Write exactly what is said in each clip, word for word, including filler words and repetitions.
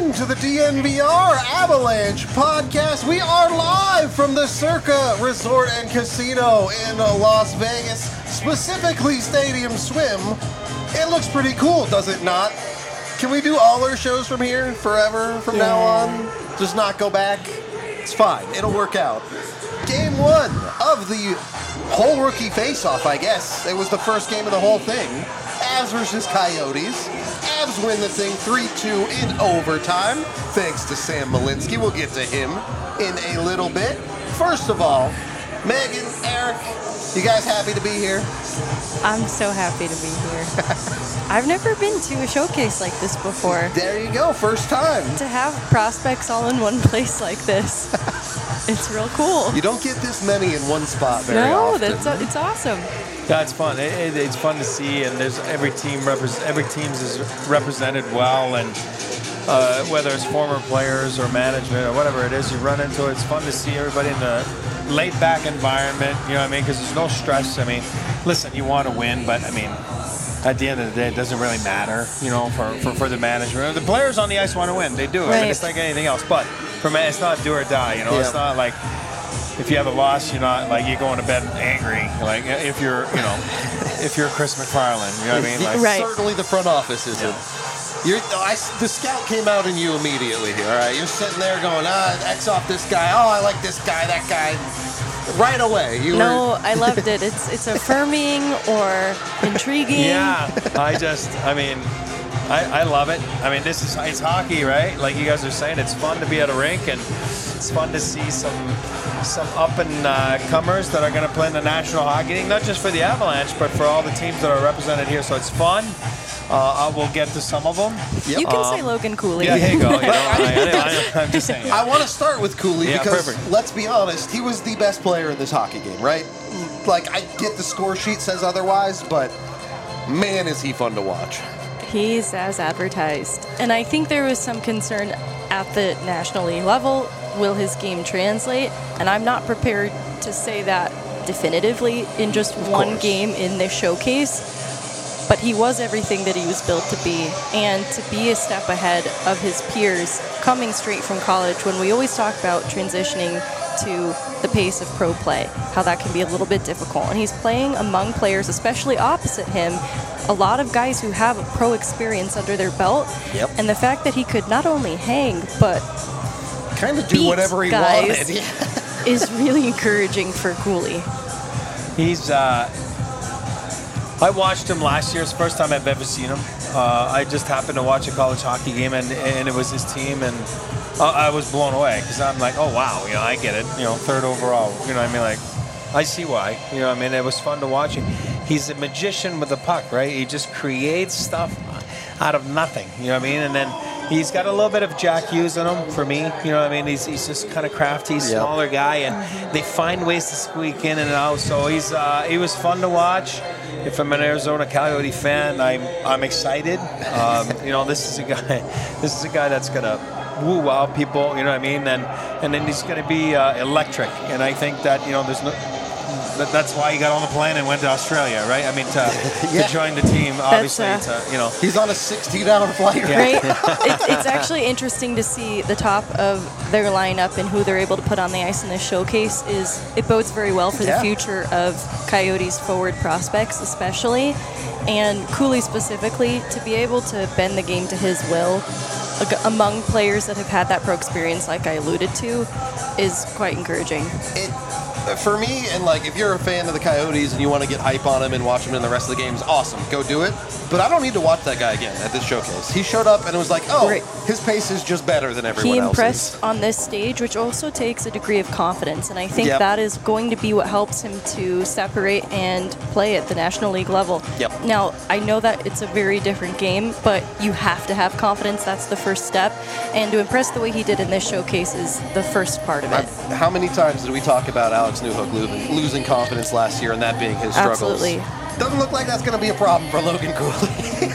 welcome to the D N V R Avalanche podcast. We are live from the Circa Resort and Casino in Las Vegas, specifically Stadium Swim. It looks pretty cool, does it not? Can we do all our shows from here forever from yeah. now on? Just not go back? It's fine. It'll work out. Game one of the whole rookie face-off, I guess. It was the first game of the whole thing. Avs versus Coyotes. Avs win the thing three two in overtime, thanks to Sam Malinsky. We'll get to him in a little bit. First of all, Megan, Eric, you guys happy to be here? I'm so happy to be here. I've never been to a showcase like this before. There you go, first time. To have prospects all in one place like this, it's real cool. You don't get this many in one spot very no, often. No, that's it's awesome. Yeah, it's fun. It, it, it's fun to see, and there's every team repre- every team's is represented well, and uh, whether it's former players or management or whatever it is, you run into it. It's fun to see everybody in the laid-back environment. You know what I mean? Because there's no stress. I mean, listen, you want to win, but I mean, at the end of the day, it doesn't really matter. You know, for for, for the management, the players on the ice want to win. They do. Right. I mean, it's like anything else, but for me, it's not do or die. You know, yeah. It's not like. If you have a loss, you're not like you're going to bed angry. Like if you're, you know, if you're Chris McFarland, you know what I mean? Like, right. Certainly the front office isn't. Yeah. You're, I, the scout came out in you immediately here. All right, you're sitting there going, ah, X off this guy. Oh, I like this guy, that guy. Right away, you no, were. I loved it. It's it's affirming or intriguing. Yeah, I just, I mean. I, I love it. I mean, this is it's hockey, right? Like you guys are saying, it's fun to be at a rink, and it's fun to see some some up and uh, comers that are going to play in the National Hockey League, not just for the Avalanche, but for all the teams that are represented here. So it's fun. Uh, I will get to some of them. Yep. You can um, say Logan Cooley. Yeah, here you go. You know, I, I, I'm just saying. I want to start with Cooley yeah, because, perfect. Let's be honest, he was the best player in this hockey game, right? Like, I get the score sheet says otherwise, but man, is he fun to watch. He's as advertised. And I think there was some concern at the National League level. Will his game translate? And I'm not prepared to say that definitively in just of one course. game in this showcase. But he was everything that he was built to be. And to be a step ahead of his peers coming straight from college, when we always talk about transitioning to the pace of pro play, how that can be a little bit difficult. And he's playing among players, especially opposite him, a lot of guys who have a pro experience under their belt. Yep. And the fact that he could not only hang, but kind of do whatever he guys wanted yeah. is really encouraging for Cooley. He's, uh, I watched him last year. It's the first time I've ever seen him. Uh, I just happened to watch a college hockey game, and, and it was his team, and uh, I was blown away because I'm like, oh, wow, you know, I get it. You know, third overall, you know what I mean? Like, I see why. You know what I mean? It was fun to watch him. He's a magician with the puck, right? He just creates stuff out of nothing, you know what I mean? And then he's got a little bit of Jack Hughes in him for me, you know what I mean? He's, he's just kind of crafty, smaller yep. guy, and they find ways to squeak in and out. So he's uh, he was fun to watch. If I'm an Arizona Coyote fan, I'm I'm excited. Um, you know, this is a guy, this is a guy that's gonna woo wow people, you know what I mean? And and then he's gonna be uh, electric. And I think that you know, there's no. That's why he got on the plane and went to Australia, right? I mean, to, yeah. to join the team, obviously, uh, to, you know. He's on a sixteen-hour flight, right? it's, it's actually interesting to see the top of their lineup and who they're able to put on the ice in this showcase. Is it bodes very well for yeah. the future of Coyotes forward prospects, especially, and Cooley specifically, to be able to bend the game to his will among players that have had that pro experience, like I alluded to, is quite encouraging. It, For me, and like if you're a fan of the Coyotes and you want to get hype on him and watch him in the rest of the games, awesome, go do it. But I don't need to watch that guy again at this showcase. He showed up and it was like, oh, right. his pace is just better than everyone else's. He impressed else's. on this stage, which also takes a degree of confidence, and I think yep. that is going to be what helps him to separate and play at the National League level. Yep. Now, I know that it's a very different game, but you have to have confidence. That's the first step, and to impress the way he did in this showcase is the first part of it. I've, how many times did we talk about Alex Newhook losing, losing confidence last year and that being his struggles? Absolutely. Doesn't look like that's going to be a problem for Logan Cooley.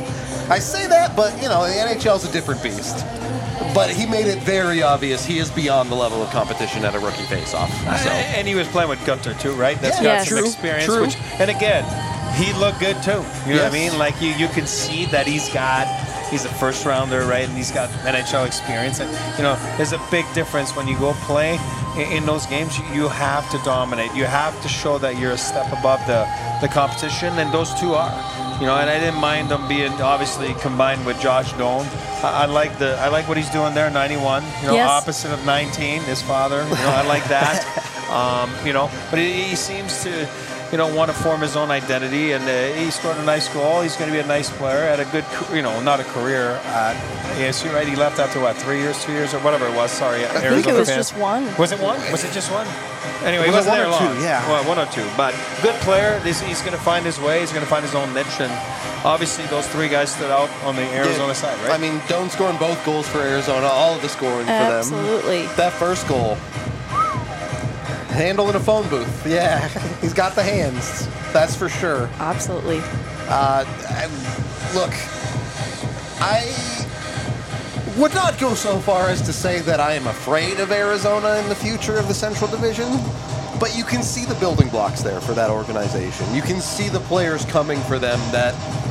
I say that, but, you know, the N H L is a different beast. But he made it very obvious he is beyond the level of competition at a rookie face-off. So. And he was playing with Gunter, too, right? That's yeah, got yes. some true, experience. true. Which, and again, he looked good, too. You know yes. what I mean? Like, you, you can see that he's got he's a first rounder, right? And he's got N H L experience. And, you know, there's a big difference when you go play in, in those games. You have to dominate. You have to show that you're a step above the, the competition, and those two are. You know, and I didn't mind them being obviously combined with Josh Doan. I, I like the I like what he's doing there, ninety-one. You know, yes. opposite of nineteen, his father. You know, I like that. um, you know, but he, he seems to, you know, want to form his own identity, and uh, he scored a nice goal. He's going to be a nice player. Had a good, you know, not a career at A S U, right? He left after what, three years, two years, or whatever it was. Sorry, I Arizona think it was fans. just one. Was it one? Was it just one? Anyway, Was he wasn't it there one or long. two? Yeah. Well, one or two. But good player. He's, he's going to find his way. He's going to find his own niche. And obviously, those three guys stood out on the Arizona Yeah. side, right? I mean, Doan scoring both goals for Arizona, all of the scoring for them. Absolutely. That first goal, handle in a phone booth. Yeah, he's got the hands. That's for sure. Absolutely. Uh, and look, I would not go so far as to say that I am afraid of Arizona in the future of the Central Division, but you can see the building blocks there for that organization. You can see the players coming for them that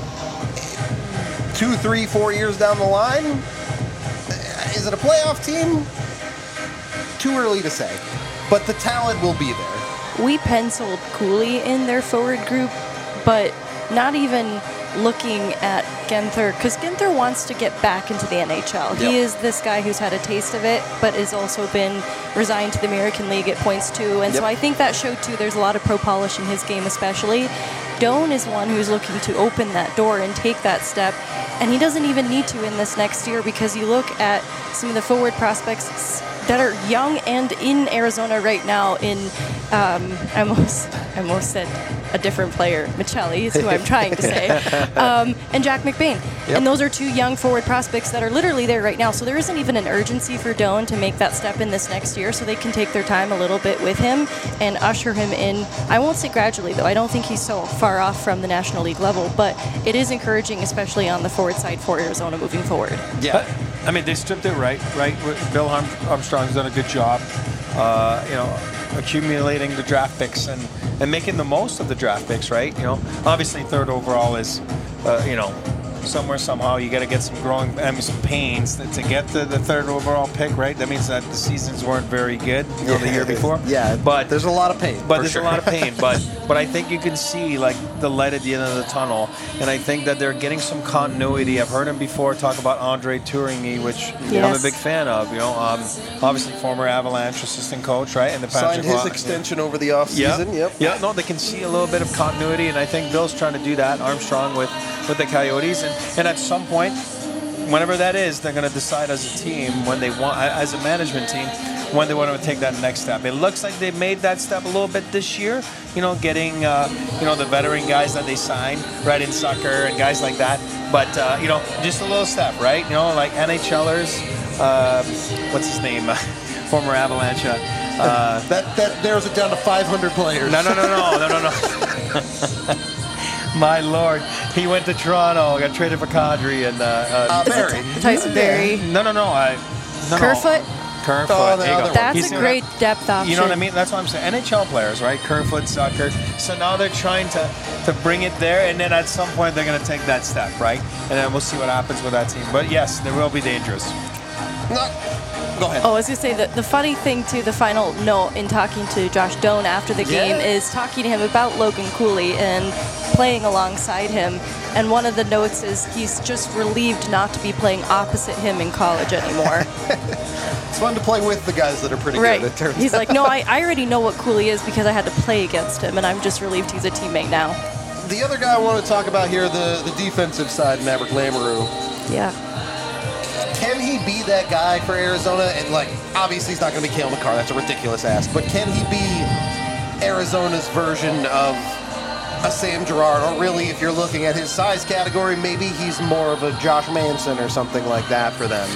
two, three, four years down the line, is it a playoff team? Too early to say, but the talent will be there. We penciled Cooley in their forward group, but not even looking at Genther, because Genther wants to get back into the N H L. Yep. He is this guy who's had a taste of it, but has also been resigned to the American League at points too. And Yep. so I think that showed too. There's a lot of pro polish in his game, especially. Doan is one who's looking to open that door and take that step, and he doesn't even need to in this next year, because you look at some of the forward prospects that are young and in Arizona right now. In um, I almost I almost said a different player, Michelli is who I'm trying to say, um, and Jack McBain. Yep. And those are two young forward prospects that are literally there right now. So there isn't even an urgency for Doan to make that step in this next year, so they can take their time a little bit with him and usher him in. I won't say gradually, though. I don't think he's so far off from the National League level, but it is encouraging, especially on the forward side for Arizona moving forward. Yeah. I mean, they stripped it right, right? Bill Armstrong's done a good job, uh, you know, accumulating the draft picks and, and making the most of the draft picks, right? You know, obviously third overall is, uh, you know, somewhere, somehow, you got to get some growing, I mean, some pains to, to get the, the third overall pick, right? That means that the seasons weren't very good, you know, the year before. Yeah, but there's a lot of pain. But for there's sure. a lot of pain. But but I think you can see like the light at the end of the tunnel, and I think that they're getting some continuity. I've heard him before talk about Andre Tourigny, which Yes. I'm a big fan of. You know, um, obviously former Avalanche assistant coach, right? And the Signed his extension over the offseason. Yep. Yeah, no, they can see a little bit of continuity, and I think Bill's trying to do that, Armstrong, with, with the Coyotes. And, and at some point, whenever that is, they're going to decide as a team, when they want, as a management team, when they want to take that next step. It looks like they made that step a little bit this year, you know, getting, uh, you know, the veteran guys that they signed, right, in Sucker and guys like that. But, uh, you know, just a little step, right? You know, like NHLers, uh, what's his name, former Avalanche. Uh, That that narrows it down to five hundred players. no, no, no, no, no, no, no. My Lord, he went to Toronto, got traded for Kadri and uh, uh, Uh, Barry. Tyson Berry. no, no, no, I. No, Kerfoot? No. Kerfoot. Oh, the there you other go. one. That's He's a doing great it. depth option. You know what I mean? That's what I'm saying. N H L players, right? Kerfoot, Zucker. So now they're trying to, to bring it there, and then at some point they're going to take that step, right? And then we'll see what happens with that team. But yes, they will be dangerous. No. Go ahead. Oh, I was going to say, the, the funny thing, too, the final note in talking to Josh Doan after the game Yeah. is talking to him about Logan Cooley and playing alongside him. And one of the notes is he's just relieved not to be playing opposite him in college anymore. It's fun to play with the guys that are pretty Right. good, it turns He's out. like, no, I, I already know what Cooley is because I had to play against him, and I'm just relieved he's a teammate now. The other guy I want to talk about here, the, the defensive side, Maverick Lamoureux. Yeah. Can he be that guy for Arizona? And, like, obviously he's not going to be Cale Makar. That's a ridiculous ask. But can he be Arizona's version of a Sam Girard? Or really, if you're looking at his size category, maybe he's more of a Josh Manson or something like that for them.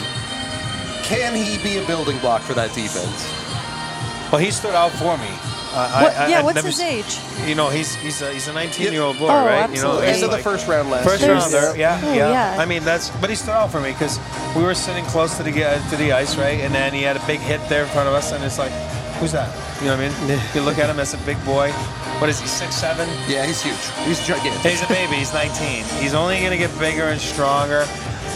Can he be a building block for that defense? Well, he stood out for me. Uh, What, I, I, yeah, I've what's never his s- age? You know, he's he's a, he's a nineteen-year-old boy, Oh, right? You know, absolutely. he's End of the like- first round last First year. There's- rounder, yeah, Oh, yeah, yeah. I mean, that's, but he stood out for me because we were sitting close to the to the ice, right? And then he had a big hit there in front of us, and it's like, who's that? You know what I mean? You look at him as a big boy. What is he, six seven? Yeah, he's huge. He's gigantic. He's a baby. He's nineteen. He's only going to get bigger and stronger.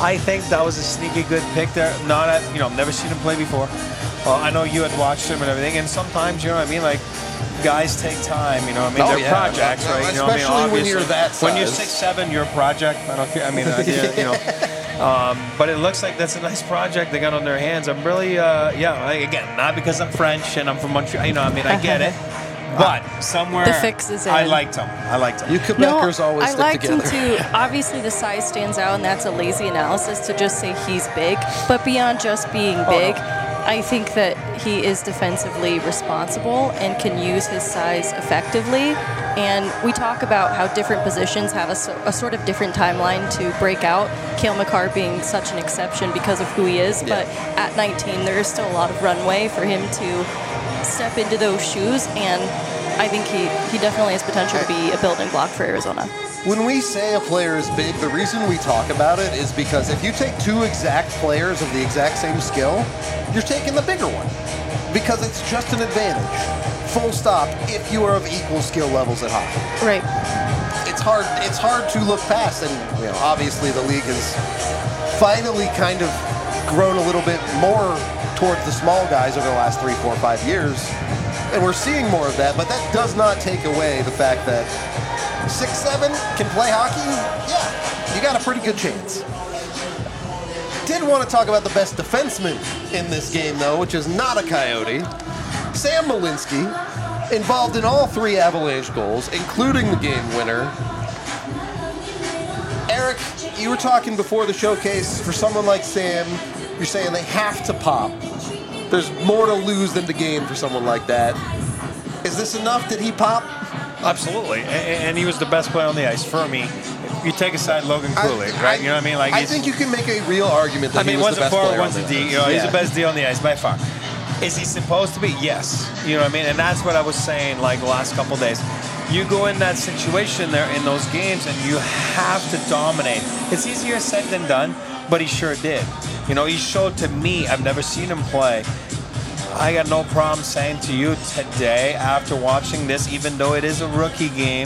I think that was a sneaky good pick there. Not at, you know, never seen him play before. Uh, I know you had watched him and everything, and sometimes, you know what I mean, like, guys take time, you know what I mean? Oh, They're yeah. projects, Well, right? You know especially what I mean? when you're Obviously, that When you're size. six seven, you're a project. I don't care. I mean, uh, yeah, you know. Um, but it looks like that's a nice project they got on their hands. I'm really, uh, yeah, like, again, not because I'm French and I'm from Montreal, you know, I mean, I get it. But somewhere, The fix is in. I liked him. I liked him. You Quebecers always I stick liked together. him too. Obviously, the size stands out, and that's a lazy analysis to just say he's big. But beyond just being big, I think that he is defensively responsible and can use his size effectively. And we talk about how different positions have a, so, a sort of different timeline to break out. Cale Makar being such an exception because of who he is. Yeah. But at nineteen, there is still a lot of runway for him to step into those shoes, and I think he, he definitely has potential to be a building block for Arizona. When we say a player is big, the reason we talk about it is because if you take two exact players of the exact same skill, you're taking the bigger one. Because it's just an advantage. Full stop, if you are of equal skill levels at hockey. Right. It's hard it's hard to look past, and you know, obviously the league has finally kind of grown a little bit more towards the small guys over the last three, four, five years. And we're seeing more of that, but that does not take away the fact that six seven can play hockey. Yeah, you got a pretty good chance. Did want to talk about the best defenseman in this game, though, which is not a Coyote. Sam Malinsky, involved in all three Avalanche goals, including the game winner. Eric, you were talking before the showcase, for someone like Sam, you're saying they have to pop. There's more to lose than to gain for someone like that. Is this enough? Did he pop? Absolutely, and, and he was the best player on the ice for me. You take aside Logan Cooley, I- right? I- you know what I mean? Like I he's- think you can make a real argument that I mean, he was one's the a best forward, player one's on a the D. ice. You know, he's Yeah. the best D on the ice by far. Is he supposed to be? Yes. You know what I mean? And that's what I was saying like the last couple days. You go in that situation there in those games and you have to dominate. It's easier said than done, but he sure did. You know, he showed to me, I've never seen him play. I got no problem saying to you today, after watching this, even though it is a rookie game,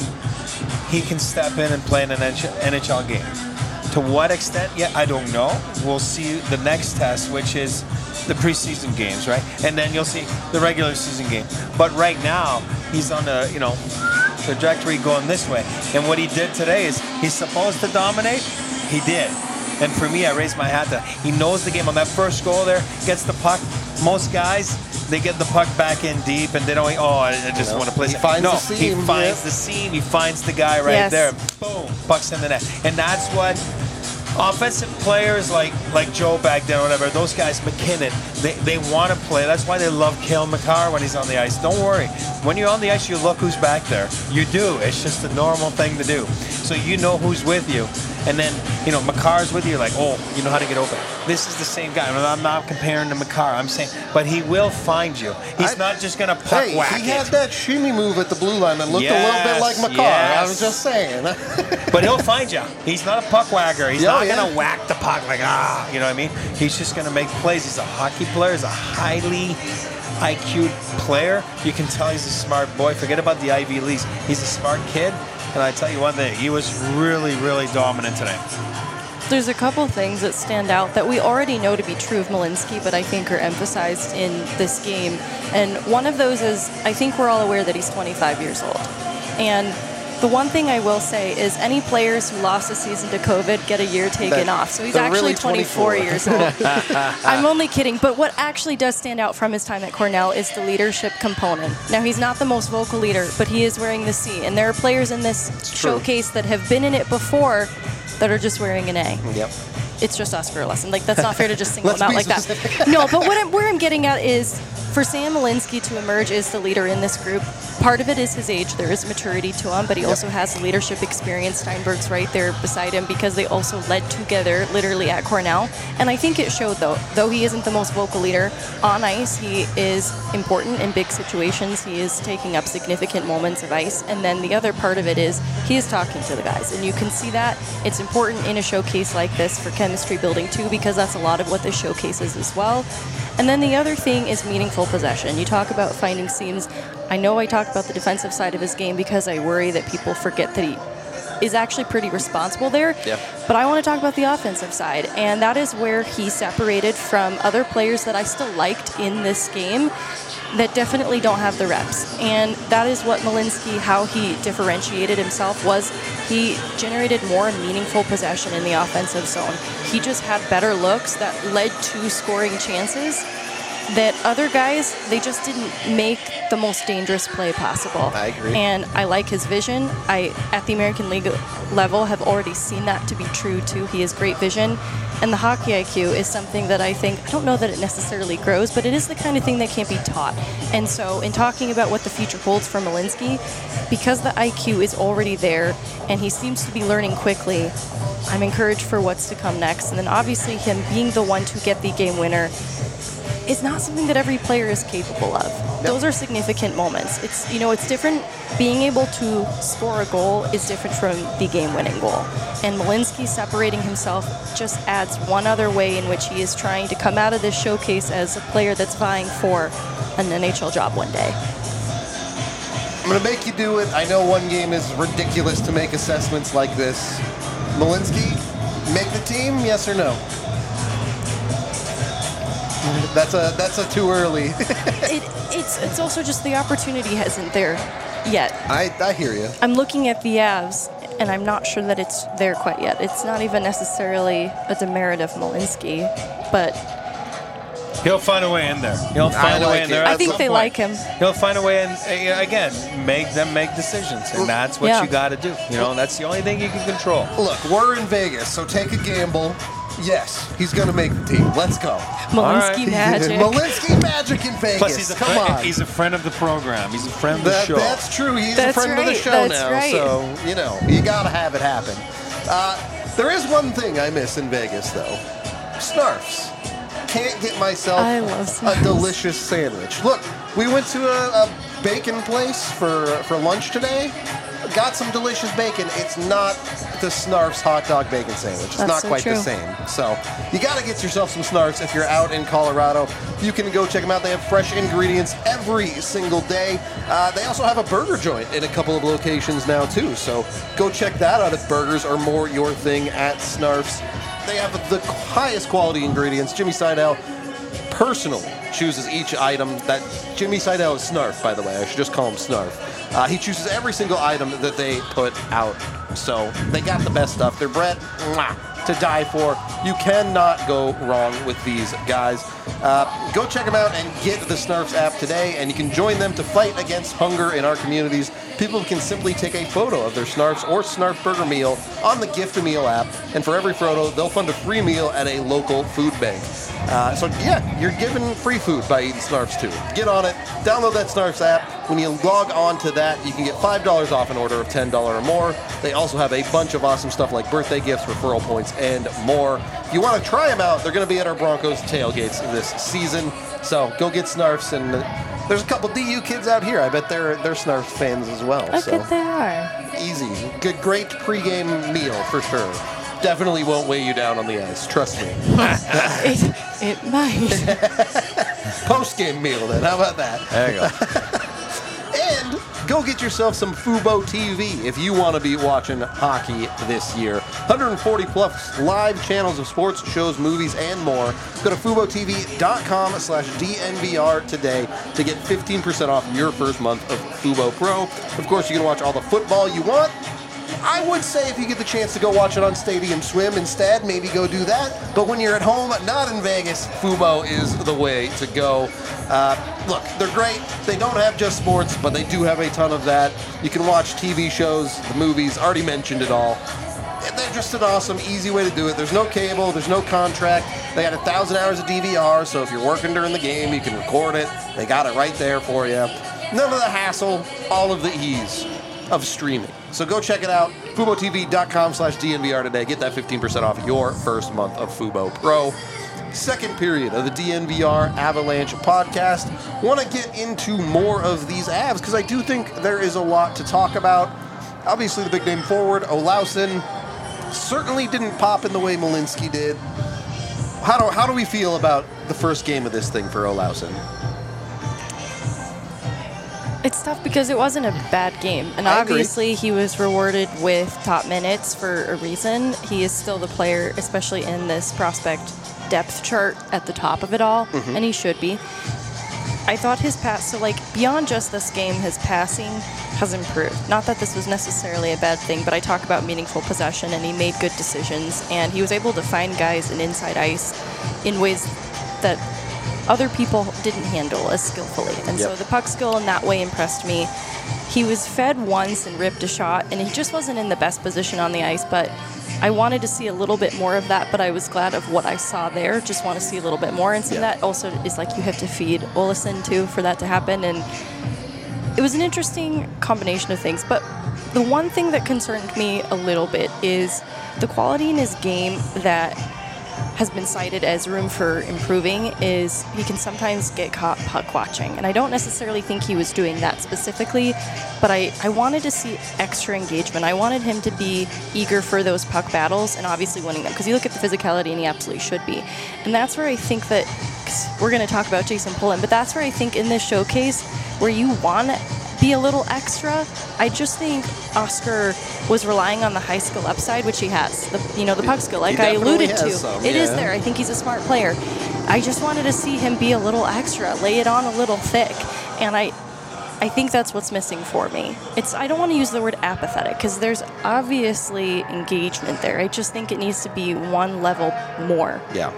he can step in and play in an N H L game. To what extent? Yeah, I don't know. We'll see the next test, which is the preseason games, right? And then you'll see the regular season game. But right now, he's on a, you know, trajectory going this way. And what he did today is he's supposed to dominate. He did. And for me, I raised my hat to he knows the game. On that first goal there, gets the puck. Most guys, they get the puck back in deep and they don't, oh, I just know, want to play he it. finds no, the seam, he finds yeah. the seam. He finds the guy right Yes. there. Boom, puck's in the net. And that's what offensive players like like Joe back then, or whatever, those guys, McKinnon, they, they want to play. That's why they love Cale Makar when he's on the ice. Don't worry. When you're on the ice, you look who's back there. You do. It's just a normal thing to do. So you know who's with you. And then, you know, Makar's with you, you're like, oh, you know how to get open. This is the same guy. I'm not comparing to Makar. I'm saying, but he will find you. He's I- not just going to puck Hey, whack he it. had that shimmy move at the blue line that looked a little bit Yes, like Makar. yes. I was just saying. But he'll find you. He's not a puck whacker. He's Yeah, not yeah. going to whack the puck like, ah, you know what I mean? He's just going to make plays. He's a hockey player. He's a highly I Q player. You can tell he's a smart boy. Forget about the Ivy Leagues. He's a smart kid. And I tell you one thing, he was really, really dominant today. There's a couple things that stand out that we already know to be true of Malinsky, but I think are emphasized in this game. And one of those is, I think we're all aware that he's twenty-five years old. And the one thing I will say is any players who lost a season to COVID get a year taken That- off. So he's they're actually really twenty-four twenty-four. years old. I'm only kidding. But what actually does stand out from his time at Cornell is the leadership component. Now, he's not the most vocal leader, but he is wearing the C. And there are players in this true. showcase that have been in it before that are just wearing an A. Yep. It's just Oscar lesson. Like, that's not fair to just single Let's him out be like that. specific. No, but what I'm, where I'm getting at is for Sam Malinsky to emerge as the leader in this group, part of it is his age. There is maturity to him, but he also has leadership experience. Steinberg's right there beside him because they also led together literally at Cornell. And I think it showed, though. Though he isn't the most vocal leader on ice, he is important in big situations. He is taking up significant moments of ice. And then the other part of it is he is talking to the guys. And you can see that. It's important in a showcase like this for chemistry building, too, because that's a lot of what this showcase is as well. And then the other thing is meaningful possession. You talk about finding seams. I know I talk about the defensive side of his game because I worry that people forget that he is actually pretty responsible there. Yeah. But I want to talk about the offensive side, and that is where he separated from other players that I still liked in this game that definitely don't have the reps. And that is what Malinsky, how he differentiated himself, was he generated more meaningful possession in the offensive zone. He just had better looks that led to scoring chances that other guys, they just didn't make the most dangerous play possible. I agree. And I like his vision. I, at the American League level, have already seen that to be true, too. He has great vision. And the hockey I Q is something that I think, I don't know that it necessarily grows, but it is the kind of thing that can't be taught. And so in talking about what the future holds for Malinsky, because the I Q is already there and he seems to be learning quickly, I'm encouraged for what's to come next. And then obviously him being the one to get the game winner is not something that every player is capable of. Yep. Those are significant moments. It's, you know, it's different. Being able to score a goal is different from the game-winning goal. And Malinsky separating himself just adds one other way in which he is trying to come out of this showcase as a player that's vying for an N H L job one day. I'm going to make you do it. I know one game is ridiculous to make assessments like this. Malinsky, make the team, yes or no? That's a that's a too early. it, it's it's also just the opportunity hasn't there yet. I, I hear you. I'm looking at the Avs, and I'm not sure that it's there quite yet. It's not even necessarily a demerit of Malinsky, but he'll find a way in there. He'll find I a way like in there. it. I at think some they point. like him. He'll find a way in, uh, again, make them make decisions, and that's what Yeah. you got to do. You know, that's the only thing you can control. Look, we're in Vegas, so take a gamble. Yes, he's going to make the team. Let's go. Malinsky right. magic. Malinsky magic in Vegas. Plus, he's a Come friend, on. He's a friend of the program. He's a friend of the That, show. that's true. He's That's a friend of the right. show That's now, right. so you know you gotta have it happen. Uh, there is one thing I miss in Vegas, though: Snarfs. Can't get myself I love a Snarfs. delicious sandwich. Look, we went to a, a bacon place for for lunch today. Got some delicious bacon. It's not the Snarfs hot dog bacon sandwich. It's That's not so quite the true. same. So you got to get yourself some Snarfs if you're out in Colorado. You can go check them out. They have fresh ingredients every single day. Uh, they also have a burger joint in a couple of locations now too. So go check that out if burgers are more your thing at Snarfs. They have the highest quality ingredients. Jimmy Seidel personally chooses each item. That Jimmy Seidel is Snarf, by the way. I should just call him Snarf. Uh, he chooses every single item that they put out. So they got the best stuff. Their bread, mwah, to die for. You cannot go wrong with these guys. Uh, go check them out and get the Snarfs app today, and you can join them to fight against hunger in our communities. People can simply take a photo of their Snarfs or Snarf Burger meal on the Gift a Meal app, and for every photo, they'll fund a free meal at a local food bank. Uh, so yeah, you're given free food by eating Snarfs too. Get on it, download that Snarfs app. When you log on to that, you can get five dollars off an order of ten dollars or more. They also have a bunch of awesome stuff like birthday gifts, referral points, and more. If you want to try them out, they're going to be at our Broncos tailgates this season. So go get Snarfs, and uh, there's a couple D U kids out here. I bet they're they're Snarfs fans as well. I so bet they are. easy, good, great pregame meal for sure. Definitely won't weigh you down on the ice. Trust me. it, it might. Post-game meal then. How about that? There you go. And go get yourself some Fubo T V if you want to be watching hockey this year. one hundred forty plus live channels of sports, shows, movies, and more. Go to FuboTV.com slash DNVR today to get fifteen percent off your first month of Fubo Pro. Of course, you can watch all the football you want. I would say if you get the chance to go watch it on Stadium Swim instead, maybe go do that. But when you're at home, not in Vegas, Fubo is the way to go. Uh, look, they're great. They don't have just sports, but they do have a ton of that. You can watch T V shows, the movies, already mentioned it all. They're just an awesome, easy way to do it. There's no cable, there's no contract. They got a thousand hours of D V R, so if you're working during the game, you can record it. They got it right there for you. None of the hassle, all of the ease of streaming. So go check it out. FuboTV.com slash DNVR today. Get that fifteen percent off your first month of Fubo Pro. Second period of the D N V R Avalanche podcast. Want to get into more of these Avs because I do think there is a lot to talk about. Obviously, the big name forward, Olausson, certainly didn't pop in the way Malinsky did. How do, how do we feel about the first game of this thing for Olausson? It's tough because it wasn't a bad game. And I agree. obviously he was rewarded with top minutes for a reason. He is still the player, especially in this prospect depth chart at the top of it all, mm-hmm. and he should be. I thought his pass, so like beyond just this game, his passing has improved. Not that this was necessarily a bad thing, but I talk about meaningful possession, and he made good decisions, and he was able to find guys in inside ice in ways that other people didn't handle as skillfully. And yep. so the puck skill in that way impressed me. He was fed once and ripped a shot, and he just wasn't in the best position on the ice, but I wanted to see a little bit more of that, but I was glad of what I saw there. Just want to see a little bit more. And so yeah. that also is like you have to feed Olesen too for that to happen. And it was an interesting combination of things. But the one thing that concerned me a little bit is the quality in his game that has been cited as room for improving is he can sometimes get caught puck watching. And I don't necessarily think he was doing that specifically, but I, I wanted to see extra engagement. I wanted him to be eager for those puck battles and obviously winning them, because you look at the physicality and he absolutely should be. And that's where I think that, 'cause we're going to talk about Jason Pullen, but that's where I think in this showcase where you want to be a little extra, I just think Oscar was relying on the high skill upside, which he has. The, you know, the puck skill, like I alluded to. Some, it yeah. is there. I think he's a smart player. I just wanted to see him be a little extra, lay it on a little thick. And I I think that's what's missing for me. It's I don't want to use the word apathetic, because there's obviously engagement there. I just think it needs to be one level more. Yeah.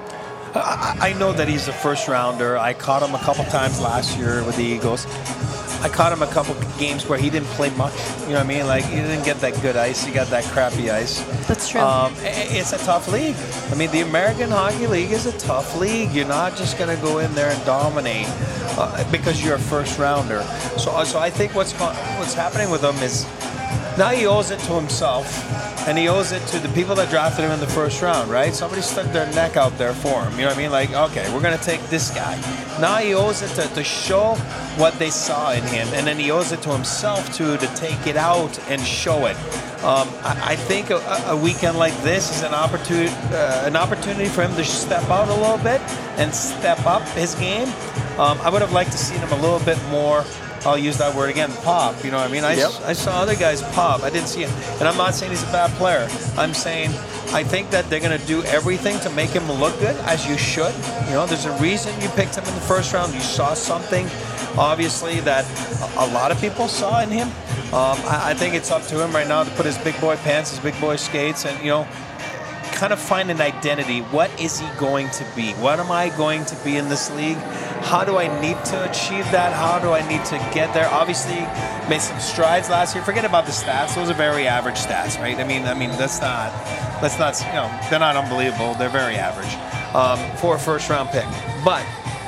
I, I know that he's a first rounder. I caught him a couple times last year with the Eagles. I caught him a couple games where he didn't play much. You know what I mean? Like, he didn't get that good ice. He got that crappy ice. That's true. Um, it's a tough league. I mean, the American Hockey League is a tough league. You're not just going to go in there and dominate uh, because you're a first rounder. So, so I think what's what's happening with him is now he owes it to himself, and he owes it to the people that drafted him in the first round, right? Somebody stuck their neck out there for him. You know what I mean? Like, okay, we're going to take this guy. Now he owes it to, to show what they saw in him, and then he owes it to himself, too, to take it out and show it. Um, I, I think a, a weekend like this is an opportunity, uh, an opportunity for him to step out a little bit and step up his game. Um, I would have liked to see him a little bit more. I'll use that word again, pop. You know what I mean? I, yep. I saw other guys pop. I didn't see him. And I'm not saying he's a bad player. I'm saying I think that they're going to do everything to make him look good, as you should. You know, there's a reason you picked him in the first round. You saw something, obviously, that a lot of people saw in him. Um, I, I think it's up to him right now to put his big boy pants, his big boy skates, and, you know, kind of find an identity. What is he going to be? What am I going to be in this league? How do I need to achieve that? How do I need to get there? Obviously, made some strides last year. Forget about the stats; those are very average stats, right? I mean, I mean that's not, that's not, you know, they're not unbelievable. They're very average um, for a first-round pick. But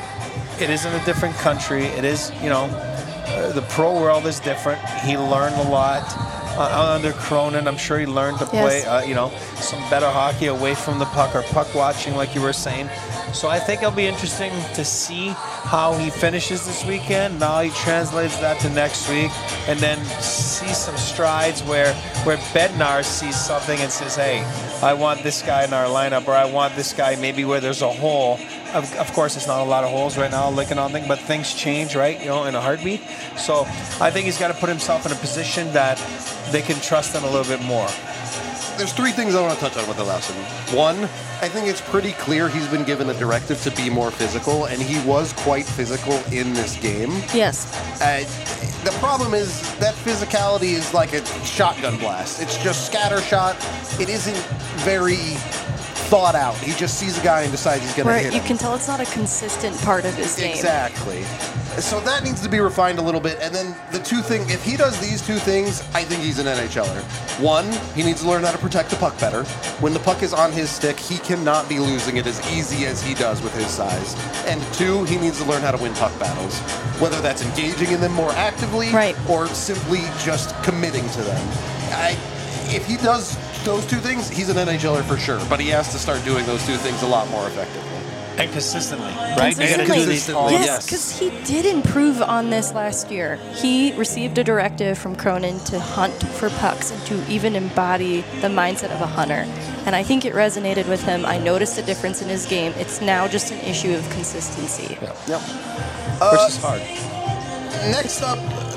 it is in a different country. It is, you know, uh, the pro world is different. He learned a lot. Uh, under Cronin, I'm sure he learned to play, yes. uh, you know, some better hockey away from the puck, or puck watching, like you were saying. So I think it'll be interesting to see how he finishes this weekend. Now he translates that to next week, and then see some strides where where Bednar sees something and says, "Hey, I want this guy in our lineup," or "I want this guy maybe where there's a hole." Of, of course, it's not a lot of holes right now, looking on things, but things change, right? You know, in a heartbeat. So I think he's got to put himself in a position that they can trust him a little bit more. There's three things I want to touch on with Olesen. One, I think it's pretty clear he's been given a directive to be more physical, and he was quite physical in this game. Yes. Uh, the problem is that physicality is like a shotgun blast. It's just scatter shot. It isn't very thought out. He just sees a guy and decides he's going to hit him. You can tell it's not a consistent part of his game. Exactly. So that needs to be refined a little bit. And then the two things, if he does these two things, I think he's an N H L er. One, he needs to learn how to protect the puck better. When the puck is on his stick, he cannot be losing it as easy as he does with his size. And two, he needs to learn how to win puck battles, whether that's engaging in them more actively, right, or simply just committing to them. I, if he does those two things, he's an N H L er for sure, but he has to start doing those two things a lot more effectively. And consistently, right? Consistently. Do these all, yes, because he did improve on this last year. He received a directive from Cronin to hunt for pucks and to even embody the mindset of a hunter. And I think it resonated with him. I noticed a difference in his game. It's now just an issue of consistency. Yep. Yep. Which Uh, is hard. Next up,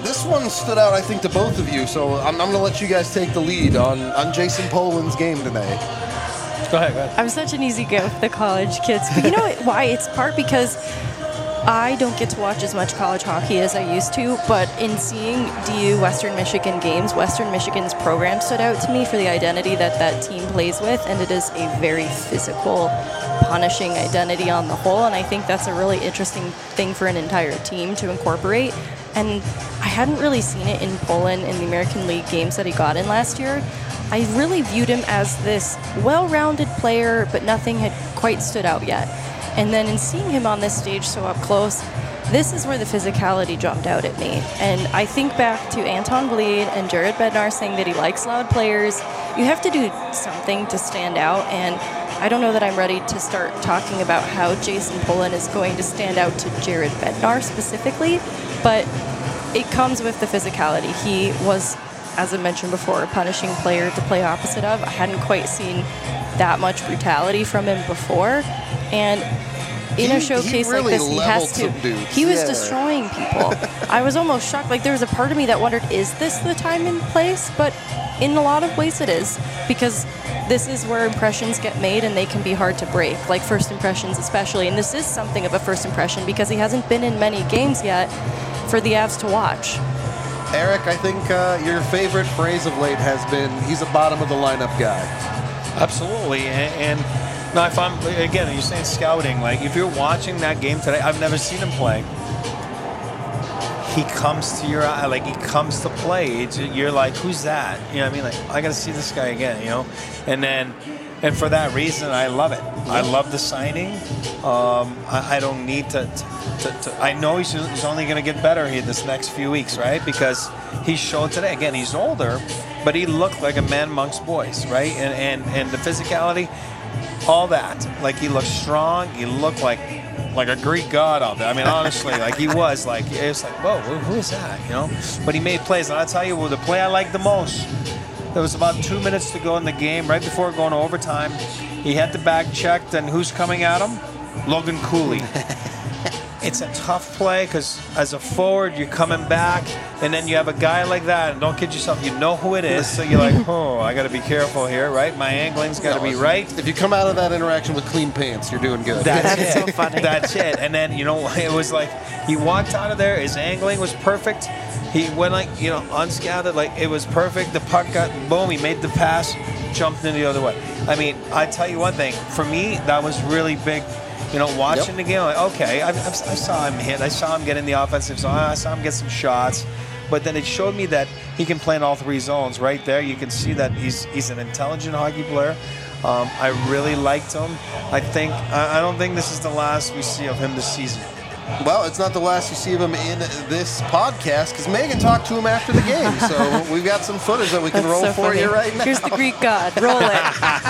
this one stood out, I think, to both of you. So I'm, I'm going to let you guys take the lead on, on Jason Poland's game tonight. Go ahead, go ahead. I'm such an easy go with the college kids. But you know why? It's part because I don't get to watch as much college hockey as I used to, but in seeing D U Western Michigan games, Western Michigan's program stood out to me for the identity that that team plays with, and it is a very physical, punishing identity on the whole, and I think that's a really interesting thing for an entire team to incorporate. And I hadn't really seen it in Poland in the American League games that he got in last year. I really viewed him as this well-rounded player, but nothing had quite stood out yet. And then in seeing him on this stage so up close, this is where the physicality jumped out at me. And I think back to Anton Bleed and Jared Bednar saying that he likes loud players. You have to do something to stand out, and I don't know that I'm ready to start talking about how Jason Poland is going to stand out to Jared Bednar specifically, but it comes with the physicality. He was, as I mentioned before, a punishing player to play opposite of. I hadn't quite seen that much brutality from him before, and in He- a showcase he really like this, he leveled has to. some dudes. He was Yeah. destroying people. I was almost shocked. Like, there was a part of me that wondered, is this the time and place? But in a lot of ways it is, because this is where impressions get made and they can be hard to break, like first impressions especially. And this is something of a first impression because he hasn't been in many games yet for the Avs to watch. Eric, I think uh, your favorite phrase of late has been, he's a bottom of the lineup guy. Absolutely, and, and now if I'm again, you're saying scouting. Like if you're watching that game today, I've never seen him play. He comes to your eye, like he comes to play. It's, you're like, who's that? You know what I mean? Like I got to see this guy again. You know, and then, and for that reason, I love it. I love the signing. Um, I, I don't need to. to, to, to I know he's, he's only going to get better here this next few weeks, right? Because he showed today. Again, he's older, but he looked like a man amongst boys, right? And and and the physicality, all that. Like he looked strong. He looked like like a Greek god out there. I mean, honestly, like he was like it's like whoa, who, who is that? You know? But he made plays, and I'll tell you, well, the play I liked the most. There was about two minutes to go in the game, right before going to overtime. He had the bag checked, and who's coming at him? Logan Cooley. It's a tough play because as a forward, you're coming back, and then you have a guy like that, and don't kid yourself, you know who it is, so you're like, oh, I got to be careful here, right? My angling's got to be right. If you come out of that interaction with clean pants, you're doing good. That's, That's it. so funny. That's it. And then, you know, it was like he walked out of there, his angling was perfect. He went like, you know, unscathed, like it was perfect. The puck got, boom, he made the pass, jumped in the other way. I mean, I tell you one thing, for me, that was really big. You know, watching Yep. the game, like, okay, I, I, I saw him hit, I saw him get in the offensive zone, I saw him get some shots, but then it showed me that he can play in all three zones. Right there, you can see that he's he's an intelligent hockey player. Um, I really liked him. I think I, I don't think this is the last we see of him this season. Well, it's not the last you see of him in this podcast because Megan talked to him after the game. So we've got some footage that we can That's roll so for funny. you right now. Here's the Greek god. Roll it.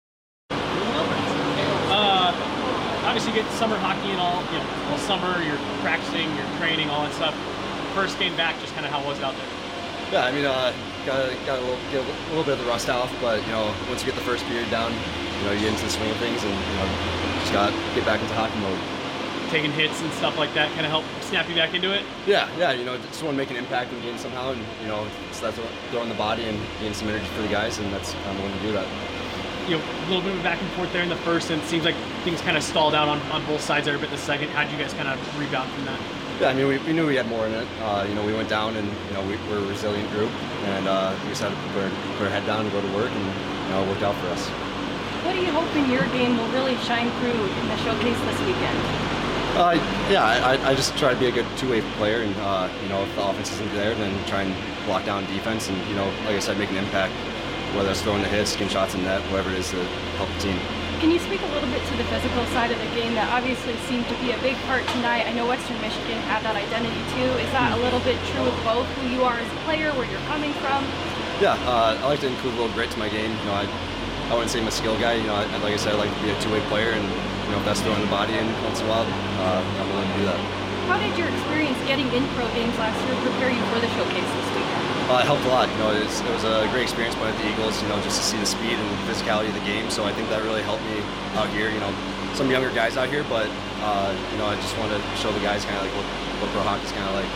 Obviously, you get summer hockey and all, you know, all summer, you're practicing, you're training, all that stuff. First game back, just kind of how was it out there? Yeah, I mean, uh, got got a little, get a little bit of the rust off, but you know, once you get the first period down, you know, you get into the swing of things, and you know, just got to get back into hockey mode. Taking hits and stuff like that kind of help snap you back into it? Yeah, yeah, you know, just want to make an impact in the game somehow, and you know, so that's what, throwing the body and getting some energy for the guys, and that's I'm willing to do that. You know, a little bit of back and forth there in the first, and it seems like things kind of stalled out on, on both sides there a bit in the second. How did you guys kind of rebound from that? Yeah, I mean, we, we knew we had more in it. Uh, you know, we went down, and you know, we, we're a resilient group, and uh, we decided to put our, put our head down and go to work, and you know, it worked out for us. What do you hope in your game will really shine through in the showcase this weekend? Uh, yeah, I, I just try to be a good two-way player, and uh, you know, if the offense isn't there, then try and lock down defense, and you know, like I said, make an impact, whether it's throwing the hits, getting shots in net, whatever it is to help the team. Can you speak a little bit to the physical side of the game that obviously seemed to be a big part tonight? I know Western Michigan had that identity too. Is that a little bit true with both who you are as a player, where you're coming from? Yeah, uh, I like to include a little grit to my game. You know, I, I wouldn't say I'm a skill guy. You know, I, like I said, I like to be a two-way player, and you know, if that's throwing the body in once in a while, uh, I'm willing to do that. How did your experience getting in pro games last year prepare you for the showcase this weekend? Uh, it helped a lot. You know, it's, it was a great experience playing at the Eagles. You know, just to see the speed and physicality of the game. So I think that really helped me out here. You know, some younger guys out here, but uh, you know, I just want to show the guys kind of like what, what pro hockey's kind of like.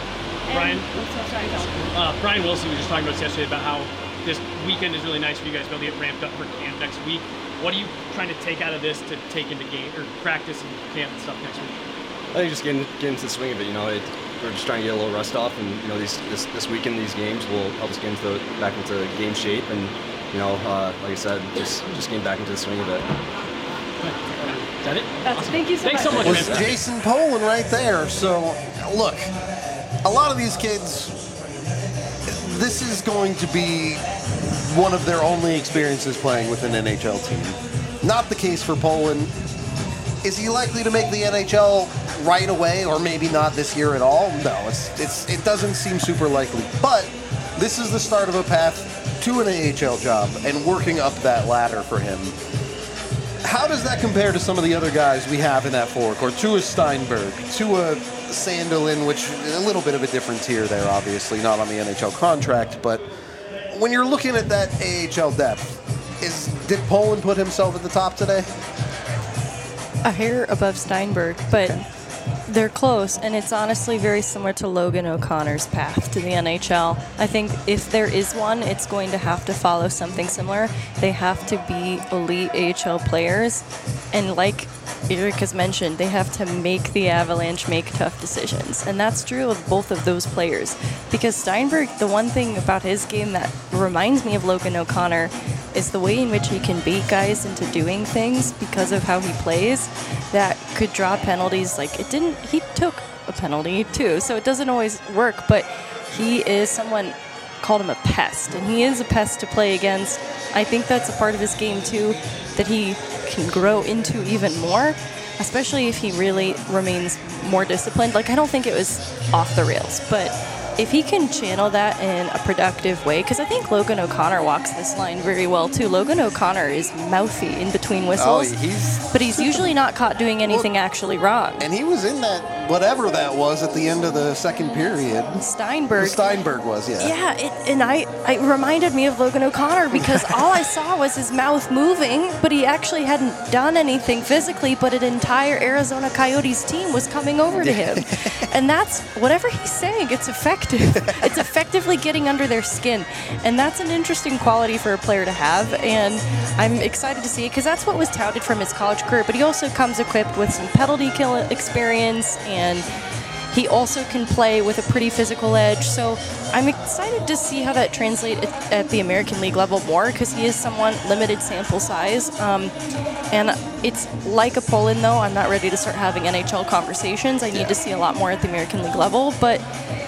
And, Brian? oh, so sorry, John. Uh, Brian Wilson was just talking about this yesterday about how this weekend is really nice for you guys to be able to get ramped up for camp next week. What are you trying to take out of this to take into game or practice and camp and stuff next week? I think just getting, getting into the swing of it, you know, it, we're just trying to get a little rust off, and you know, these this, this weekend, these games will help us get into the, back into game shape, and you know, uh, like I said, just just getting back into the swing of it. Is that it? That's, Awesome. Thank you so Thanks much. so much, Was man. Jason Poland right there. So, look, a lot of these kids, this is going to be one of their only experiences playing with an N H L team. Not the case for Poland. Is he likely to make the N H L right away, or maybe not this year at all? No, it's, it's, it doesn't seem super likely. But this is the start of a path to an A H L job and working up that ladder for him. How does that compare to some of the other guys we have in that forward core? To a Steinberg, to a Sandelin, which a little bit of a different tier there, obviously, not on the N H L contract. But when you're looking at that A H L depth, is did Poland put himself at the top today? A hair above Steinberg, but they're close, and it's honestly very similar to Logan O'Connor's path to the N H L. I think if there is one, it's going to have to follow something similar. They have to be elite A H L players, and like Eric has mentioned, they have to make the Avalanche make tough decisions, and that's true of both of those players. Because Steinberg, the one thing about his game that reminds me of Logan O'Connor is the way in which he can bait guys into doing things because of how he plays that could draw penalties. Like, it didn't, he took a penalty too, so it doesn't always work, but he is someone, called him a pest, and he is a pest to play against. I think that's a part of his game too that he can grow into even more, especially if he really remains more disciplined. Like, I don't think it was off the rails, but if he can channel that in a productive way, because I think Logan O'Connor walks this line very well too. Logan O'Connor is mouthy in between whistles, Oh, he's but he's usually not caught doing anything actually wrong. and he was in that whatever that was at the end of the second period. Steinberg. Steinberg was, yeah. Yeah, it, and I, it reminded me of Logan O'Connor because all I saw was his mouth moving, but he actually hadn't done anything physically, but an entire Arizona Coyotes team was coming over to him. And that's, whatever he's saying, it's effective. It's effectively getting under their skin. And that's an interesting quality for a player to have, and I'm excited to see it because that's what was touted from his college career, but he also comes equipped with some penalty kill experience, and he also can play with a pretty physical edge. So I'm excited to see how that translates at the American League level more because he is somewhat limited sample size. Um, and it's like a Poland, though. I'm not ready to start having N H L conversations. I need to see a lot more at the American League level. But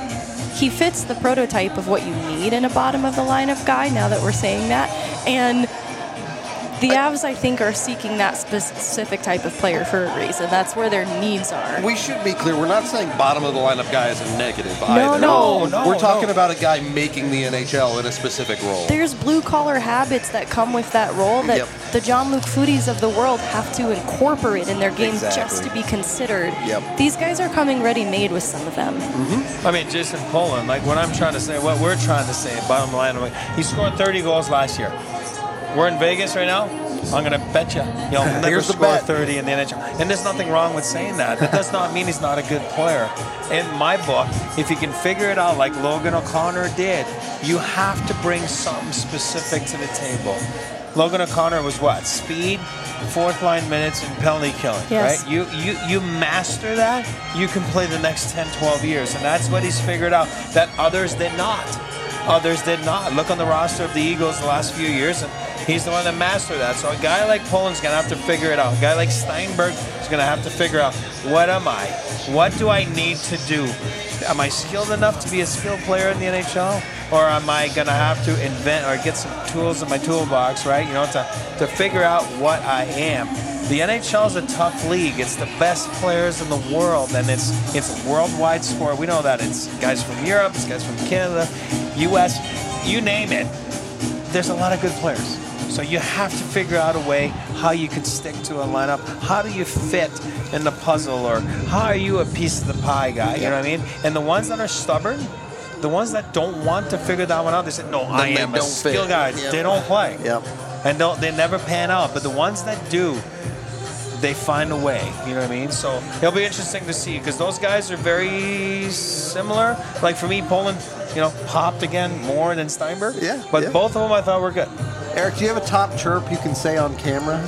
he fits the prototype of what you need in a bottom of the lineup guy, now that we're saying that. And the Avs, I think, are seeking that specific type of player for a reason. That's where their needs are. We should be clear. We're not saying bottom of the lineup guy is a negative No, either. no. no, We're talking no. about a guy making the N H L in a specific role. There's blue-collar habits that come with that role that Yep. the Jean-Luc Foodies of the world have to incorporate in their game Exactly. just to be considered. Yep. These guys are coming ready-made with some of them. I mean, Jason Poland, like what I'm trying to say, what we're trying to say, bottom line, like, he scored thirty goals last year. We're in Vegas right now. I'm going to bet you he'll never Here's the score bet. thirty in the N H L. And there's nothing wrong with saying that. That does not mean he's not a good player. In my book, if you can figure it out like Logan O'Connor did, you have to bring something specific to the table. Logan O'Connor was what? Speed, fourth line minutes, and penalty killing, Yes. right? You, you, you master that, you can play the next ten, twelve years. And that's what he's figured out that others did not. Others did not. Look on the roster of the Eagles the last few years, and he's the one that mastered that. So a guy like Poland's going to have to figure it out. A guy like Steinberg is going to have to figure out, what am I? What do I need to do? Am I skilled enough to be a skilled player in the N H L? Or am I going to have to invent or get some tools in my toolbox, right? You know, to, to figure out what I am. The N H L is a tough league. It's the best players in the world, and it's it's a worldwide sport. We know that. It's guys from Europe, it's guys from Canada, U S, you name it. There's a lot of good players. So you have to figure out a way how you can stick to a lineup. How do you fit in the puzzle, or how are you a piece of the pie guy? You know what I mean? And the ones that are stubborn, the ones that don't want to figure that one out, they say, no, I they am a don't skill fit. guy. Yep. They don't play. Yep. And don't, they never pan out. But the ones that do, they find a way. You know what I mean? So it'll be interesting to see because those guys are very similar. Like for me, Poland, you know, popped again more than Steinberg. Yeah, But yeah. both of them I thought were good. Eric, do you have a top chirp you can say on camera?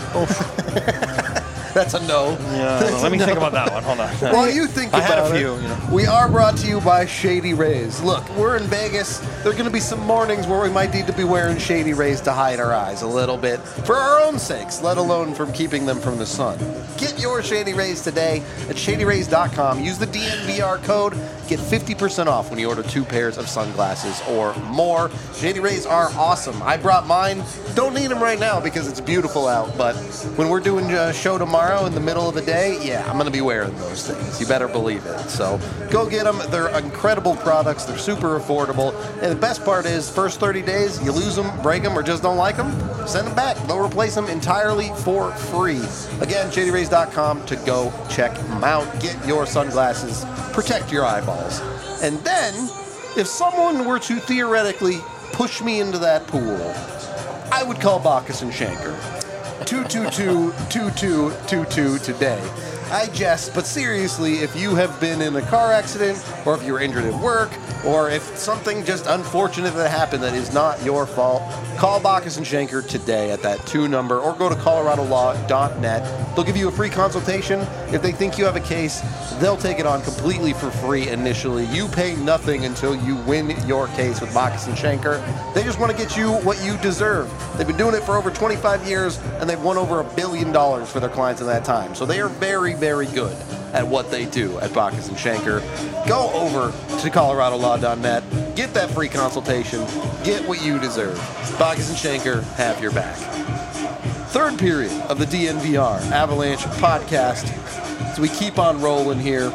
That's a no. Yeah. That's Let a me no. think about that one. Hold on. While you think I about had a it, few, you know. we are brought to you by Shady Rays. Look, we're in Vegas. There are going to be some mornings where we might need to be wearing Shady Rays to hide our eyes a little bit for our own sakes, let alone from keeping them from the sun. Get your Shady Rays today at shady rays dot com. Use the D N V R code. Get fifty percent off when you order two pairs of sunglasses or more. Shady Rays are awesome. I brought mine. Don't need them right now because it's beautiful out, but when we're doing a show tomorrow in the middle of the day, yeah, I'm going to be wearing those things. You better believe it. So go get them. They're incredible products. They're super affordable. And the best part is, first thirty days, you lose them, break them, or just don't like them, send them back. They'll replace them entirely for free. Again, shady rays dot com to go check them out. Get your sunglasses. Protect your eyeballs. And then, if someone were to theoretically push me into that pool, I would call Bacchus and Shanker. two two two, two two two two today. I jest, but seriously, if you have been in a car accident, or if you were injured at work, or if something just unfortunate that happened that is not your fault, call Bacchus and Shanker today at that two number, or go to colorado law dot net. They'll give you a free consultation. If they think you have a case, they'll take it on completely for free initially. You pay nothing until you win your case with Bacchus and Shanker. They just want to get you what you deserve. They've been doing it for over twenty-five years, and they've won over a billion dollars for their clients in that time. So they are very, very good at what they do at Bacchus and Shanker. Go over to colorado law dot net, get that free consultation, get what you deserve. Bacchus and Shanker have your back. Third period of the D N V R Avalanche podcast. So we keep on rolling here.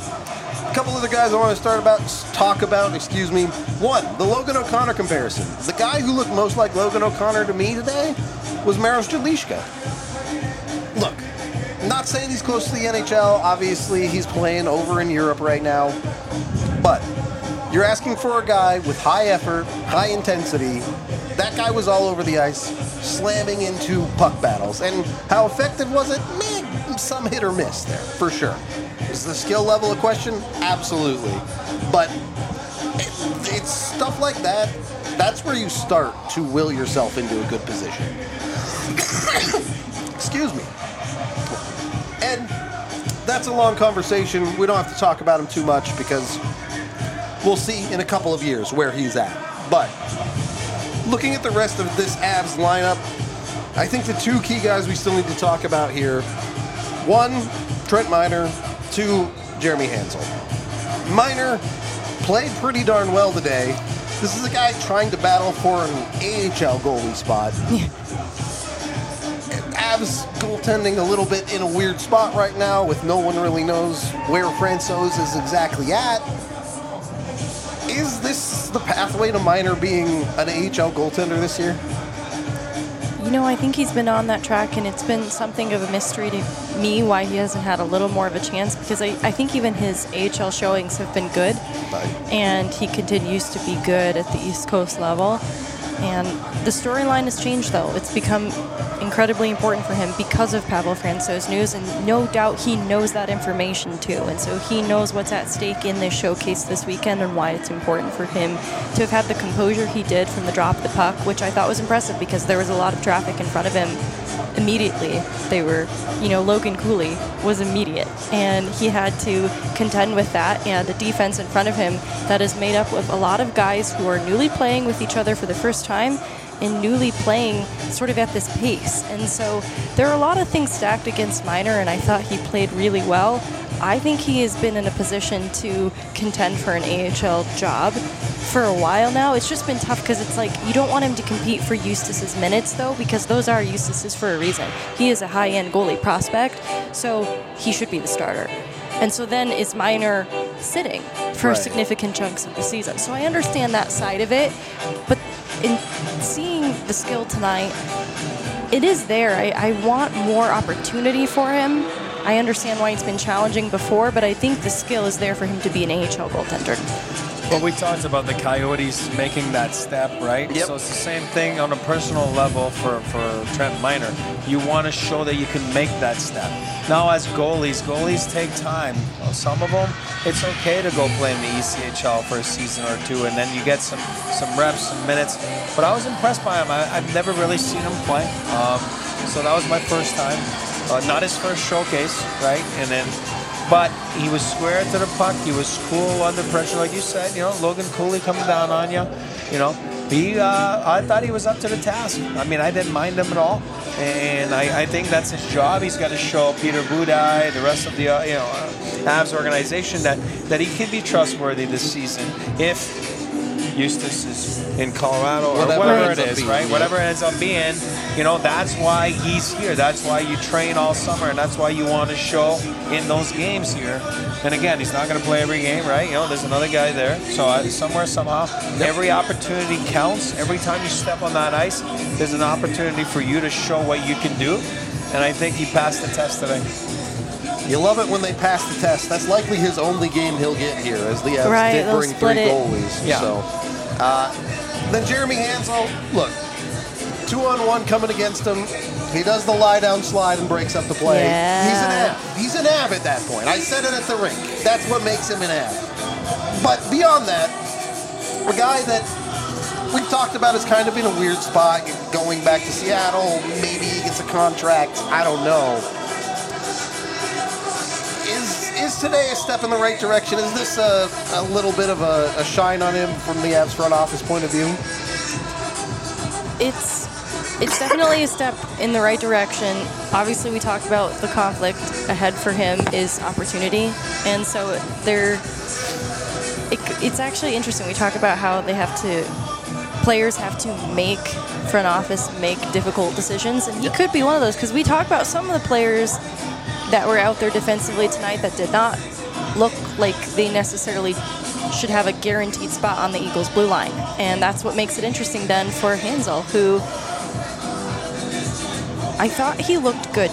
A couple other guys I want to start about, talk about, excuse me. One, the Logan O'Connor comparison. The guy who looked most like Logan O'Connor to me today was Maros Jadliška. Look, not saying he's close to the N H L. Obviously, he's playing over in Europe right now. But you're asking for a guy with high effort, high intensity. That guy was all over the ice, slamming into puck battles. And how effective was it? Man, some hit or miss there, for sure. Is the skill level a question? Absolutely. But it, it's stuff like that. That's where you start to will yourself into a good position. Excuse me. And that's a long conversation. We don't have to talk about him too much because we'll see in a couple of years where he's at. But looking at the rest of this Avs lineup, I think the two key guys we still need to talk about here, one, Trent Miner, two, Jeremy Hansel. Miner played pretty darn well today. This is a guy trying to battle for an A H L goalie spot. Avs goaltending a little bit in a weird spot right now with no one really knows where Francouz is exactly at. Is this the pathway to Miner being an A H L goaltender this year? You know, I think he's been on that track, and it's been something of a mystery to me why he hasn't had a little more of a chance, because I, I think even his A H L showings have been good, Right. and he continues to be good at the East Coast level. And the storyline has changed, though. It's become incredibly important for him because of Pavel Francouz news, and no doubt he knows that information too. And so he knows what's at stake in this showcase this weekend and why it's important for him to have had the composure he did from the drop of the puck, which I thought was impressive because there was a lot of traffic in front of him immediately. They were, you know, Logan Cooley was immediate, and he had to contend with that and a defense in front of him that is made up of a lot of guys who are newly playing with each other for the first time and newly playing sort of at this pace. And so there are a lot of things stacked against Miner, and I thought he played really well. I think he has been in a position to contend for an A H L job for a while now. It's just been tough because it's like you don't want him to compete for Eustace's minutes, though, because those are Eustace's for a reason. He is a high-end goalie prospect, so he should be the starter. And so then is Miner sitting for Right. significant chunks of the season? So I understand that side of it, but in seeing the skill tonight, it is there. I, I want more opportunity for him. I understand why it's been challenging before, but I think the skill is there for him to be an A H L goaltender. Well, we talked about the Coyotes making that step, right? Yep. So it's the same thing on a personal level for, for Trent Miner. You want to show that you can make that step. Now, as goalies, goalies take time. Well, some of them, it's okay to go play in the E C H L for a season or two, and then you get some, some reps, some minutes. But I was impressed by him. I, I've never really seen him play. Um, so that was my first time. Uh, not his first showcase, right? And then... But he was square to the puck. He was cool under pressure, like you said. You know, Logan Cooley coming down on you. You know, he. Uh, I thought he was up to the task. I mean, I didn't mind him at all, and I, I think that's his job. He's got to show Peter Budaj, the rest of the uh, you know uh, Habs organization that that he can be trustworthy this season if Eustace is in Colorado or Whatever whatever ends it up is, being, right? yeah. Whatever it ends up being, you know, that's why he's here. That's why you train all summer, and that's why you want to show in those games here. And again, he's not going to play every game, right? You know, there's another guy there. So uh, somewhere, somehow, every opportunity counts. Every time you step on that ice, there's an opportunity for you to show what you can do. And I think he passed the test today. You love it when they pass the test. That's likely his only game he'll get here, as the Avs Right, did they'll bring split three it. goalies. Yeah. So, uh, then Jeremy Hansel, look, two on one coming against him. He does the lie down slide and breaks up the play. Yeah. He's an Av. He's an Av at that point. I said it at the rink. That's what makes him an Av. But beyond that, a guy that we've talked about is kind of in a weird spot, going back to Seattle. Maybe he gets a contract. I don't know. Is is today a step in the right direction? Is this a, a little bit of a, a shine on him from the Avs front office point of view? It's it's definitely a step in the right direction. Obviously, we talked about the conflict ahead for him is opportunity, and so there. It, it's actually interesting. We talk about how they have to, players have to make front office make difficult decisions, and he could be one of those because we talk about some of the players that were out there defensively tonight that did not look like they necessarily should have a guaranteed spot on the Eagles' blue line. And that's what makes it interesting then for Hansel, who I thought he looked good.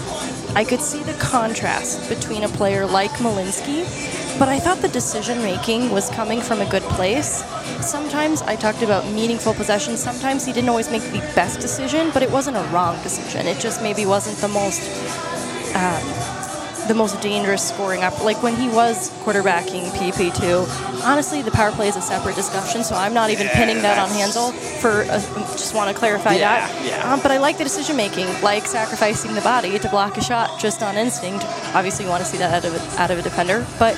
I could see the contrast between a player like Malinsky, but I thought the decision-making was coming from a good place. Sometimes I talked about meaningful possessions. Sometimes he didn't always make the best decision, but it wasn't a wrong decision. It just maybe wasn't the most um, the most dangerous scoring up. Like when he was quarterbacking P P two, honestly, the power play is a separate discussion, so I'm not even Yeah, pinning that on that's- Hansel. For uh, just want to clarify Yeah, that. yeah. Um, but I like the decision making, like sacrificing the body to block a shot just on instinct. Obviously, you want to see that out of a, out of a defender, but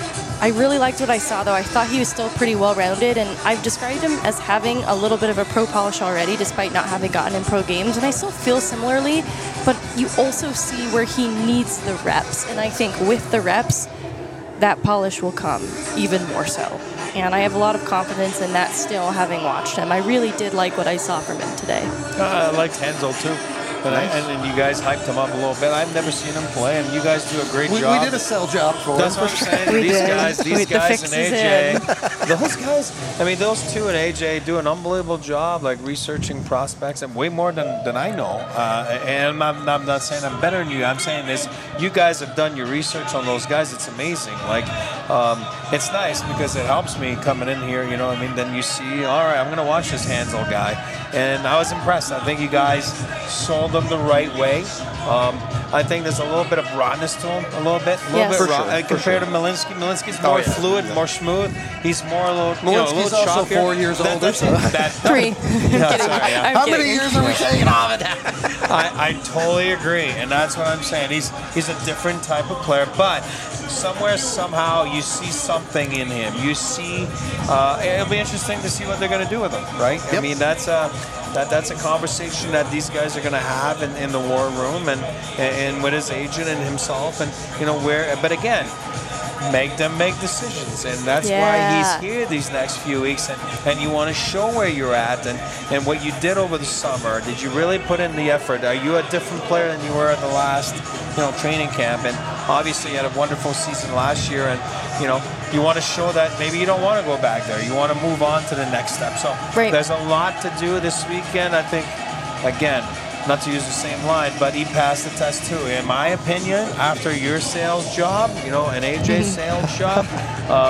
I really liked what I saw, though. I thought he was still pretty well-rounded, and I've described him as having a little bit of a pro polish already, despite not having gotten in pro games, and I still feel similarly, but you also see where he needs the reps, and I think with the reps, that polish will come even more so. And I have a lot of confidence in that still, having watched him. I really did like what I saw from him today. Uh, I liked Hansel too. But I, and, and you guys hyped him up a little bit. I've never seen him play, and you guys do a great We, job. we did a sell job for That's him. what for I'm sure. saying. We These did. guys, these With the guys and fixes A J, in. those guys, I mean, those two and A J do an unbelievable job, like researching prospects, and way more than, than I know. Uh, and I'm, I'm not saying I'm better than you. I'm saying this: you guys have done your research on those guys. It's amazing. Like, um, it's nice because it helps me coming in here. You know what I mean? Then you see, all right, I'm gonna watch this Hansel guy, and I was impressed. I think you guys sold him the right way. Um, I think there's a little bit of rawness to him, a little bit, a little Yes. bit For raw sure, uh, for compared sure. to Malinsky. Malinsky's more Oh, yeah. fluid, more smooth. He's more a little, you know, a Malinsky's little also choppier. four years That- older, that's- so- that- Three. I'm Yeah, kidding. sorry, yeah. I'm How kidding. many years are we taking off of that? I, I totally agree, and that's what I'm saying. He's he's a different type of player, but somewhere, somehow, you see something in him. You see, uh, it'll be interesting to see what they're going to do with him, right? I Yep. mean, that's a that that's a conversation that these guys are going to have in, in the war room and and with his agent and himself, and you know where. But again, make them make decisions, and that's Yeah. why he's here these next few weeks, and, and you want to show where you're at and, and what you did over the summer. Did you really put in the effort? Are you a different player than you were at the last, you know, training camp? And obviously you had a wonderful season last year, and you know, you want to show that maybe you don't want to go back there. You want to move on to the next step. So Right. there's a lot to do this weekend. I think, again, not to use the same line, but he passed the test too. In my opinion, after your sales job, you know, an A J sales job, um,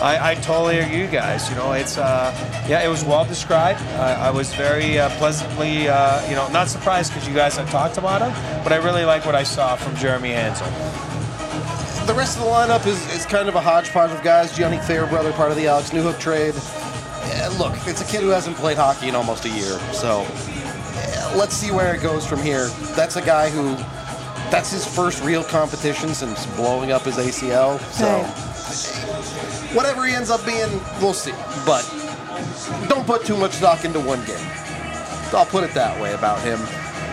I, I totally agree, you guys. You know, it's uh, yeah, it was well described. Uh, I was very uh, pleasantly, uh, you know, not surprised because you guys have talked about him, but I really like what I saw from Jeremy Hansel. The rest of the lineup is, is kind of a hodgepodge of guys. Gianni Fairbrother, part of the Alex Newhook trade. Yeah, look, it's a kid who hasn't played hockey in almost a year, so yeah, let's see where it goes from here. That's a guy who, that's his first real competition since blowing up his A C L, so Right. whatever he ends up being, we'll see. But don't put too much stock into one game. I'll put it that way about him.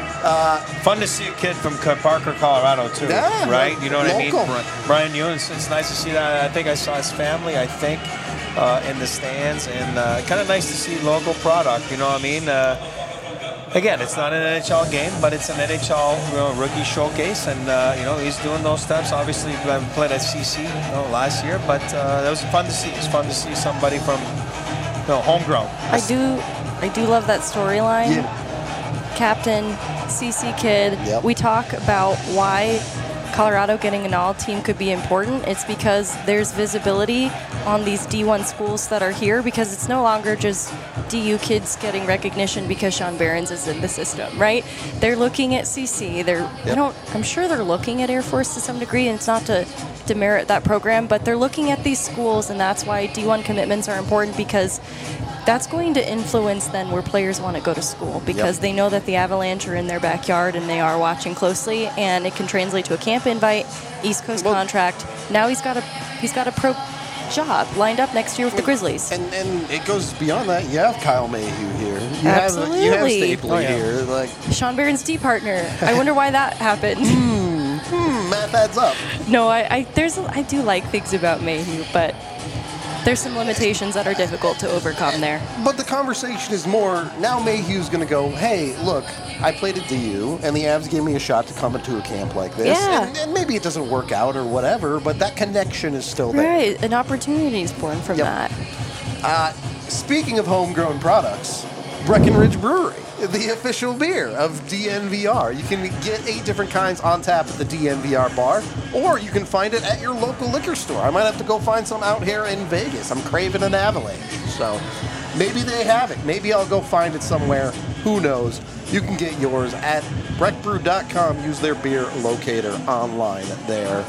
Fun to see a kid from Co- Parker, Colorado, too. Yeah, right? You know what local. I mean? Bri- Brian Ewan, it's nice to see that. I think I saw his family, I think, uh, in the stands. And uh, kind of nice to see local product, you know what I mean? Uh, again, it's not an N H L game, but it's an N H L you know, rookie showcase. And, uh, you know, he's doing those steps. Obviously, I played at C C you know, last year, but uh, that was fun to see. It's fun to see somebody from you know, homegrown. I do, I do love that storyline. Yeah. Captain, C C kid. Yep. We talk about why Colorado getting an all team could be important. It's because there's visibility on these D one schools that are here, because it's no longer just D U kids getting recognition because Sean Behrens is in the system, right? They're looking at C C. They're, I Yep. don't, I'm sure they're looking at Air Force to some degree, and it's not to demerit that program, but they're looking at these schools, and that's why D one commitments are important, because that's going to influence then where players want to go to school, because Yep. they know that the Avalanche are in their backyard and they are watching closely, and it can translate to a camp invite, East Coast Well- contract. Now he's got a he's got a pro job lined up next year with the Grizzlies. And and it goes beyond that. You have Kyle Mayhew here. You have you have Absolutely. Stapley Oh, yeah. here. Like, Sean Behrens' D partner. I wonder why that happened. hmm, math adds up. No, I, I there's I do like things about Mayhew, but there's some limitations that are difficult to overcome there. But the conversation is more, now Mayhew's going to go, hey, look, I played at D U, and the Avs gave me a shot to come into a camp like this. Yeah. And, and maybe it doesn't work out or whatever, but that connection is still there. Right, an opportunity is born from Yep. that. Uh, speaking of homegrown products, Breckenridge Brewery, the official beer of D N V R. You can get eight different kinds on tap at the D N V R bar, or you can find it at your local liquor store. I might have to go find some out here in Vegas. I'm craving an Avalanche. So maybe they have it. Maybe I'll go find it somewhere. Who knows? You can get yours at breck brew dot com. Use their beer locator online there.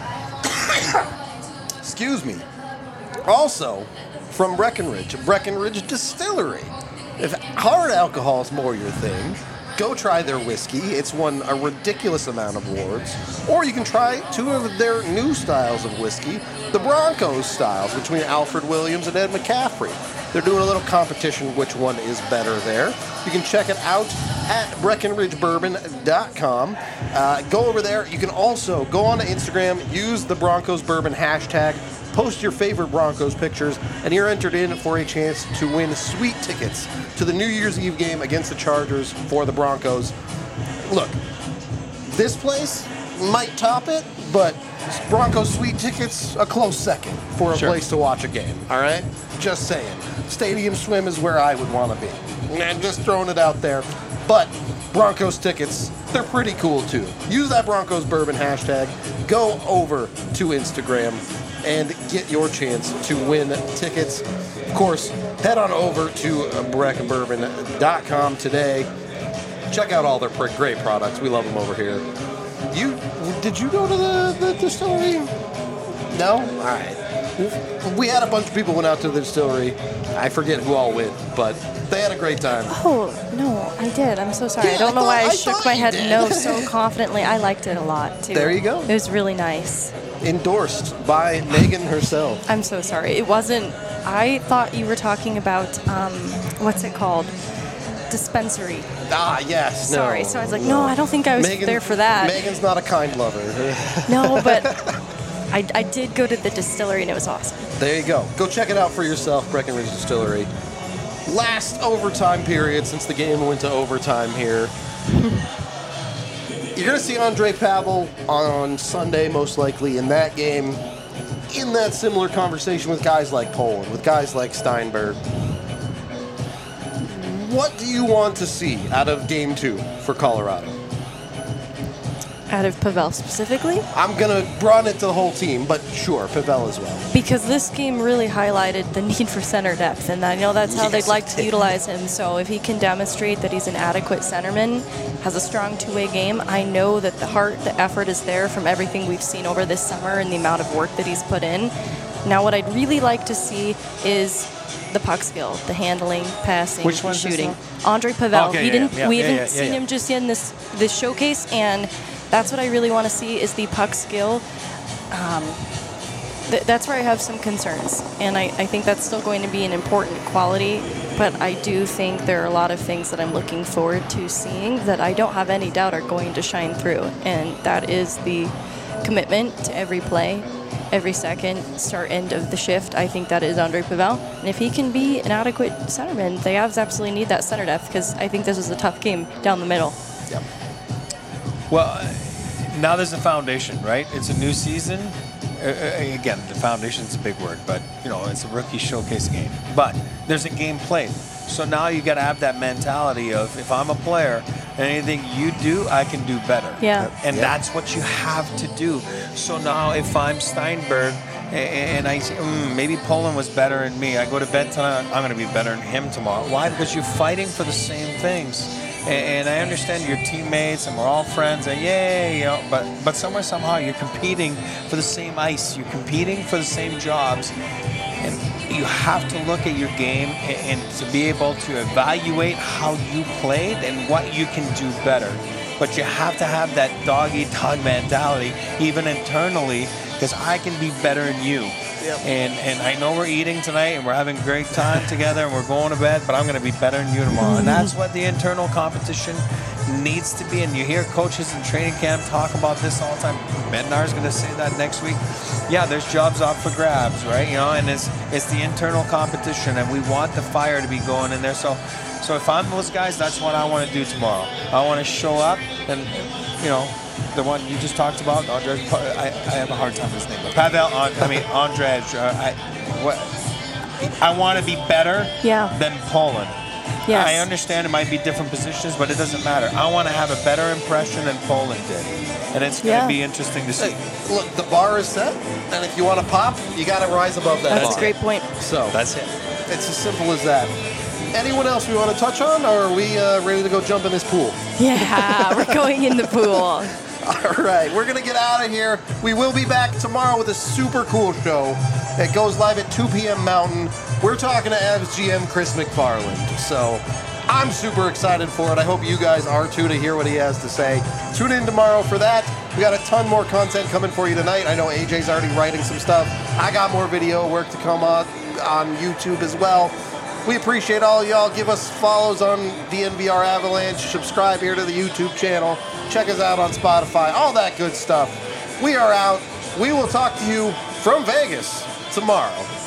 Excuse me. Also, from Breckenridge, Breckenridge Distillery. If hard alcohol is more your thing, go try their whiskey. It's won a ridiculous amount of awards. Or you can try two of their new styles of whiskey, the Broncos styles, between Alfred Williams and Ed McCaffrey. They're doing a little competition, which one is better there. You can check it out at breckenridge bourbon dot com. Uh, go over there. You can also go on to Instagram, use the Broncos Bourbon hashtag, post your favorite Broncos pictures, and you're entered in for a chance to win sweet tickets to the New Year's Eve game against the Chargers for the Broncos. Look, this place might top it, but Broncos sweet tickets, a close second for a Sure. place to watch a game, all right? Just saying. Stadium Swim is where I would want to be. And just throwing it out there. But Broncos tickets, they're pretty cool too. Use that Broncos Bourbon hashtag. Go over to Instagram and get your chance to win tickets. Of course, head on over to breck bourbon dot com today. Check out all their pr- great products. We love them over here. You did you go to the, the distillery? No? All right. We had a bunch of people went out to the distillery. I forget who all went, but they had a great time. Oh, no, I did. I'm so sorry. Yeah, I don't I know why thought- I, I shook thought my you head did. no so confidently. I liked it a lot, too. There you go. It was really nice. Endorsed by Megan herself. I'm so sorry. It wasn't, I thought you were talking about, um, what's it called? Dispensary. Ah, yes. No, Sorry. So I was like, no, I don't think I was Megan- there for that. Megan's not a kind lover. No, but I, I did go to the distillery and it was awesome. There you go. Go check it out for yourself, Breckenridge Distillery. Last overtime period since the game went to overtime here. You're going to see Andre Pavel on Sunday, most likely, in that game, in that similar conversation with guys like Poland, with guys like Steinberg. What do you want to see out of game two for Colorado? Out of Pavel specifically? I'm going to broaden it to the whole team, but sure, Pavel as well. Because this game really highlighted the need for center depth, and I know that's how Yes, they'd like it to did. utilize him. So if he can demonstrate that he's an adequate centerman, has a strong two-way game, I know that the heart, the effort is there from everything we've seen over this summer and the amount of work that he's put in. Now what I'd really like to see is the puck skill, the handling, passing, Which the one's this shooting. now? Andre Pavel. Okay, he yeah, didn't. yeah, we yeah, haven't yeah, yeah, seen yeah. him just yet in this this showcase, and that's what I really want to see is the puck skill. Um, th- that's where I have some concerns, and I, I think that's still going to be an important quality. But I do think there are a lot of things that I'm looking forward to seeing that I don't have any doubt are going to shine through, and that is the commitment to every play, every second, start, end of the shift. I think that is Andre Pavel. And if he can be an adequate centerman, the Avs absolutely need that center depth because I think this is a tough game down the middle. Yep. Well, now there's a foundation, right? It's a new season. Uh, uh, again, the foundation's a big word, but you know, it's a rookie showcase game. But there's a game played. So now you got to have that mentality of if I'm a player, anything you do, I can do better. Yeah. And Yep. that's what you have to do. So now if I'm Steinberg a- and I say, mm, maybe Poland was better than me, I go to bed tonight, I'm going to be better than him tomorrow. Why? Because you're fighting for the same things. And I understand your teammates and we're all friends and yay, you know, but but somewhere somehow you're competing for the same ice, you're competing for the same jobs, and you have to look at your game and, and to be able to evaluate how you played and what you can do better. But you have to have that dog-eat-dog mentality, even internally, because I can be better than you. Yep. And and I know we're eating tonight and we're having a great time together and we're going to bed, but I'm going to be better than you tomorrow. And that's what the internal competition needs to be. And you hear coaches in training camp talk about this all the time. Bednar's going to say that next week. Yeah, there's jobs up for grabs, right? You know, and it's it's the internal competition, and we want the fire to be going in there. So, so if I'm those guys, that's what I want to do tomorrow. I want to show up and, you know, the one you just talked about, Andre. I, I have a hard time with his name. But Pavel, I mean Andre. Uh, I, what, I want to be better Yeah. than Poland. Yes. I understand it might be different positions, but it doesn't matter. I want to have a better impression than Poland did, and it's going to Yeah. be interesting to see. Hey, look, the bar is set, and if you want to pop, you got to rise above that That's bar. a great point. So That's it. it's as simple as that. Anyone else we want to touch on, or are we uh, ready to go jump in this pool? Yeah, we're going in the pool. All right, we're going to get out of here. We will be back tomorrow with a super cool show. It goes live at two p.m. Mountain. We're talking to Avs G M Chris McFarland. So I'm super excited for it. I hope you guys are too, to hear what he has to say. Tune in tomorrow for that. We got a ton more content coming for you tonight. I know A J's already writing some stuff. I got more video work to come on on YouTube as well. We appreciate all y'all. Give us follows on D N V R Avalanche. Subscribe here to the YouTube channel. Check us out on Spotify. All that good stuff. We are out. We will talk to you from Vegas tomorrow.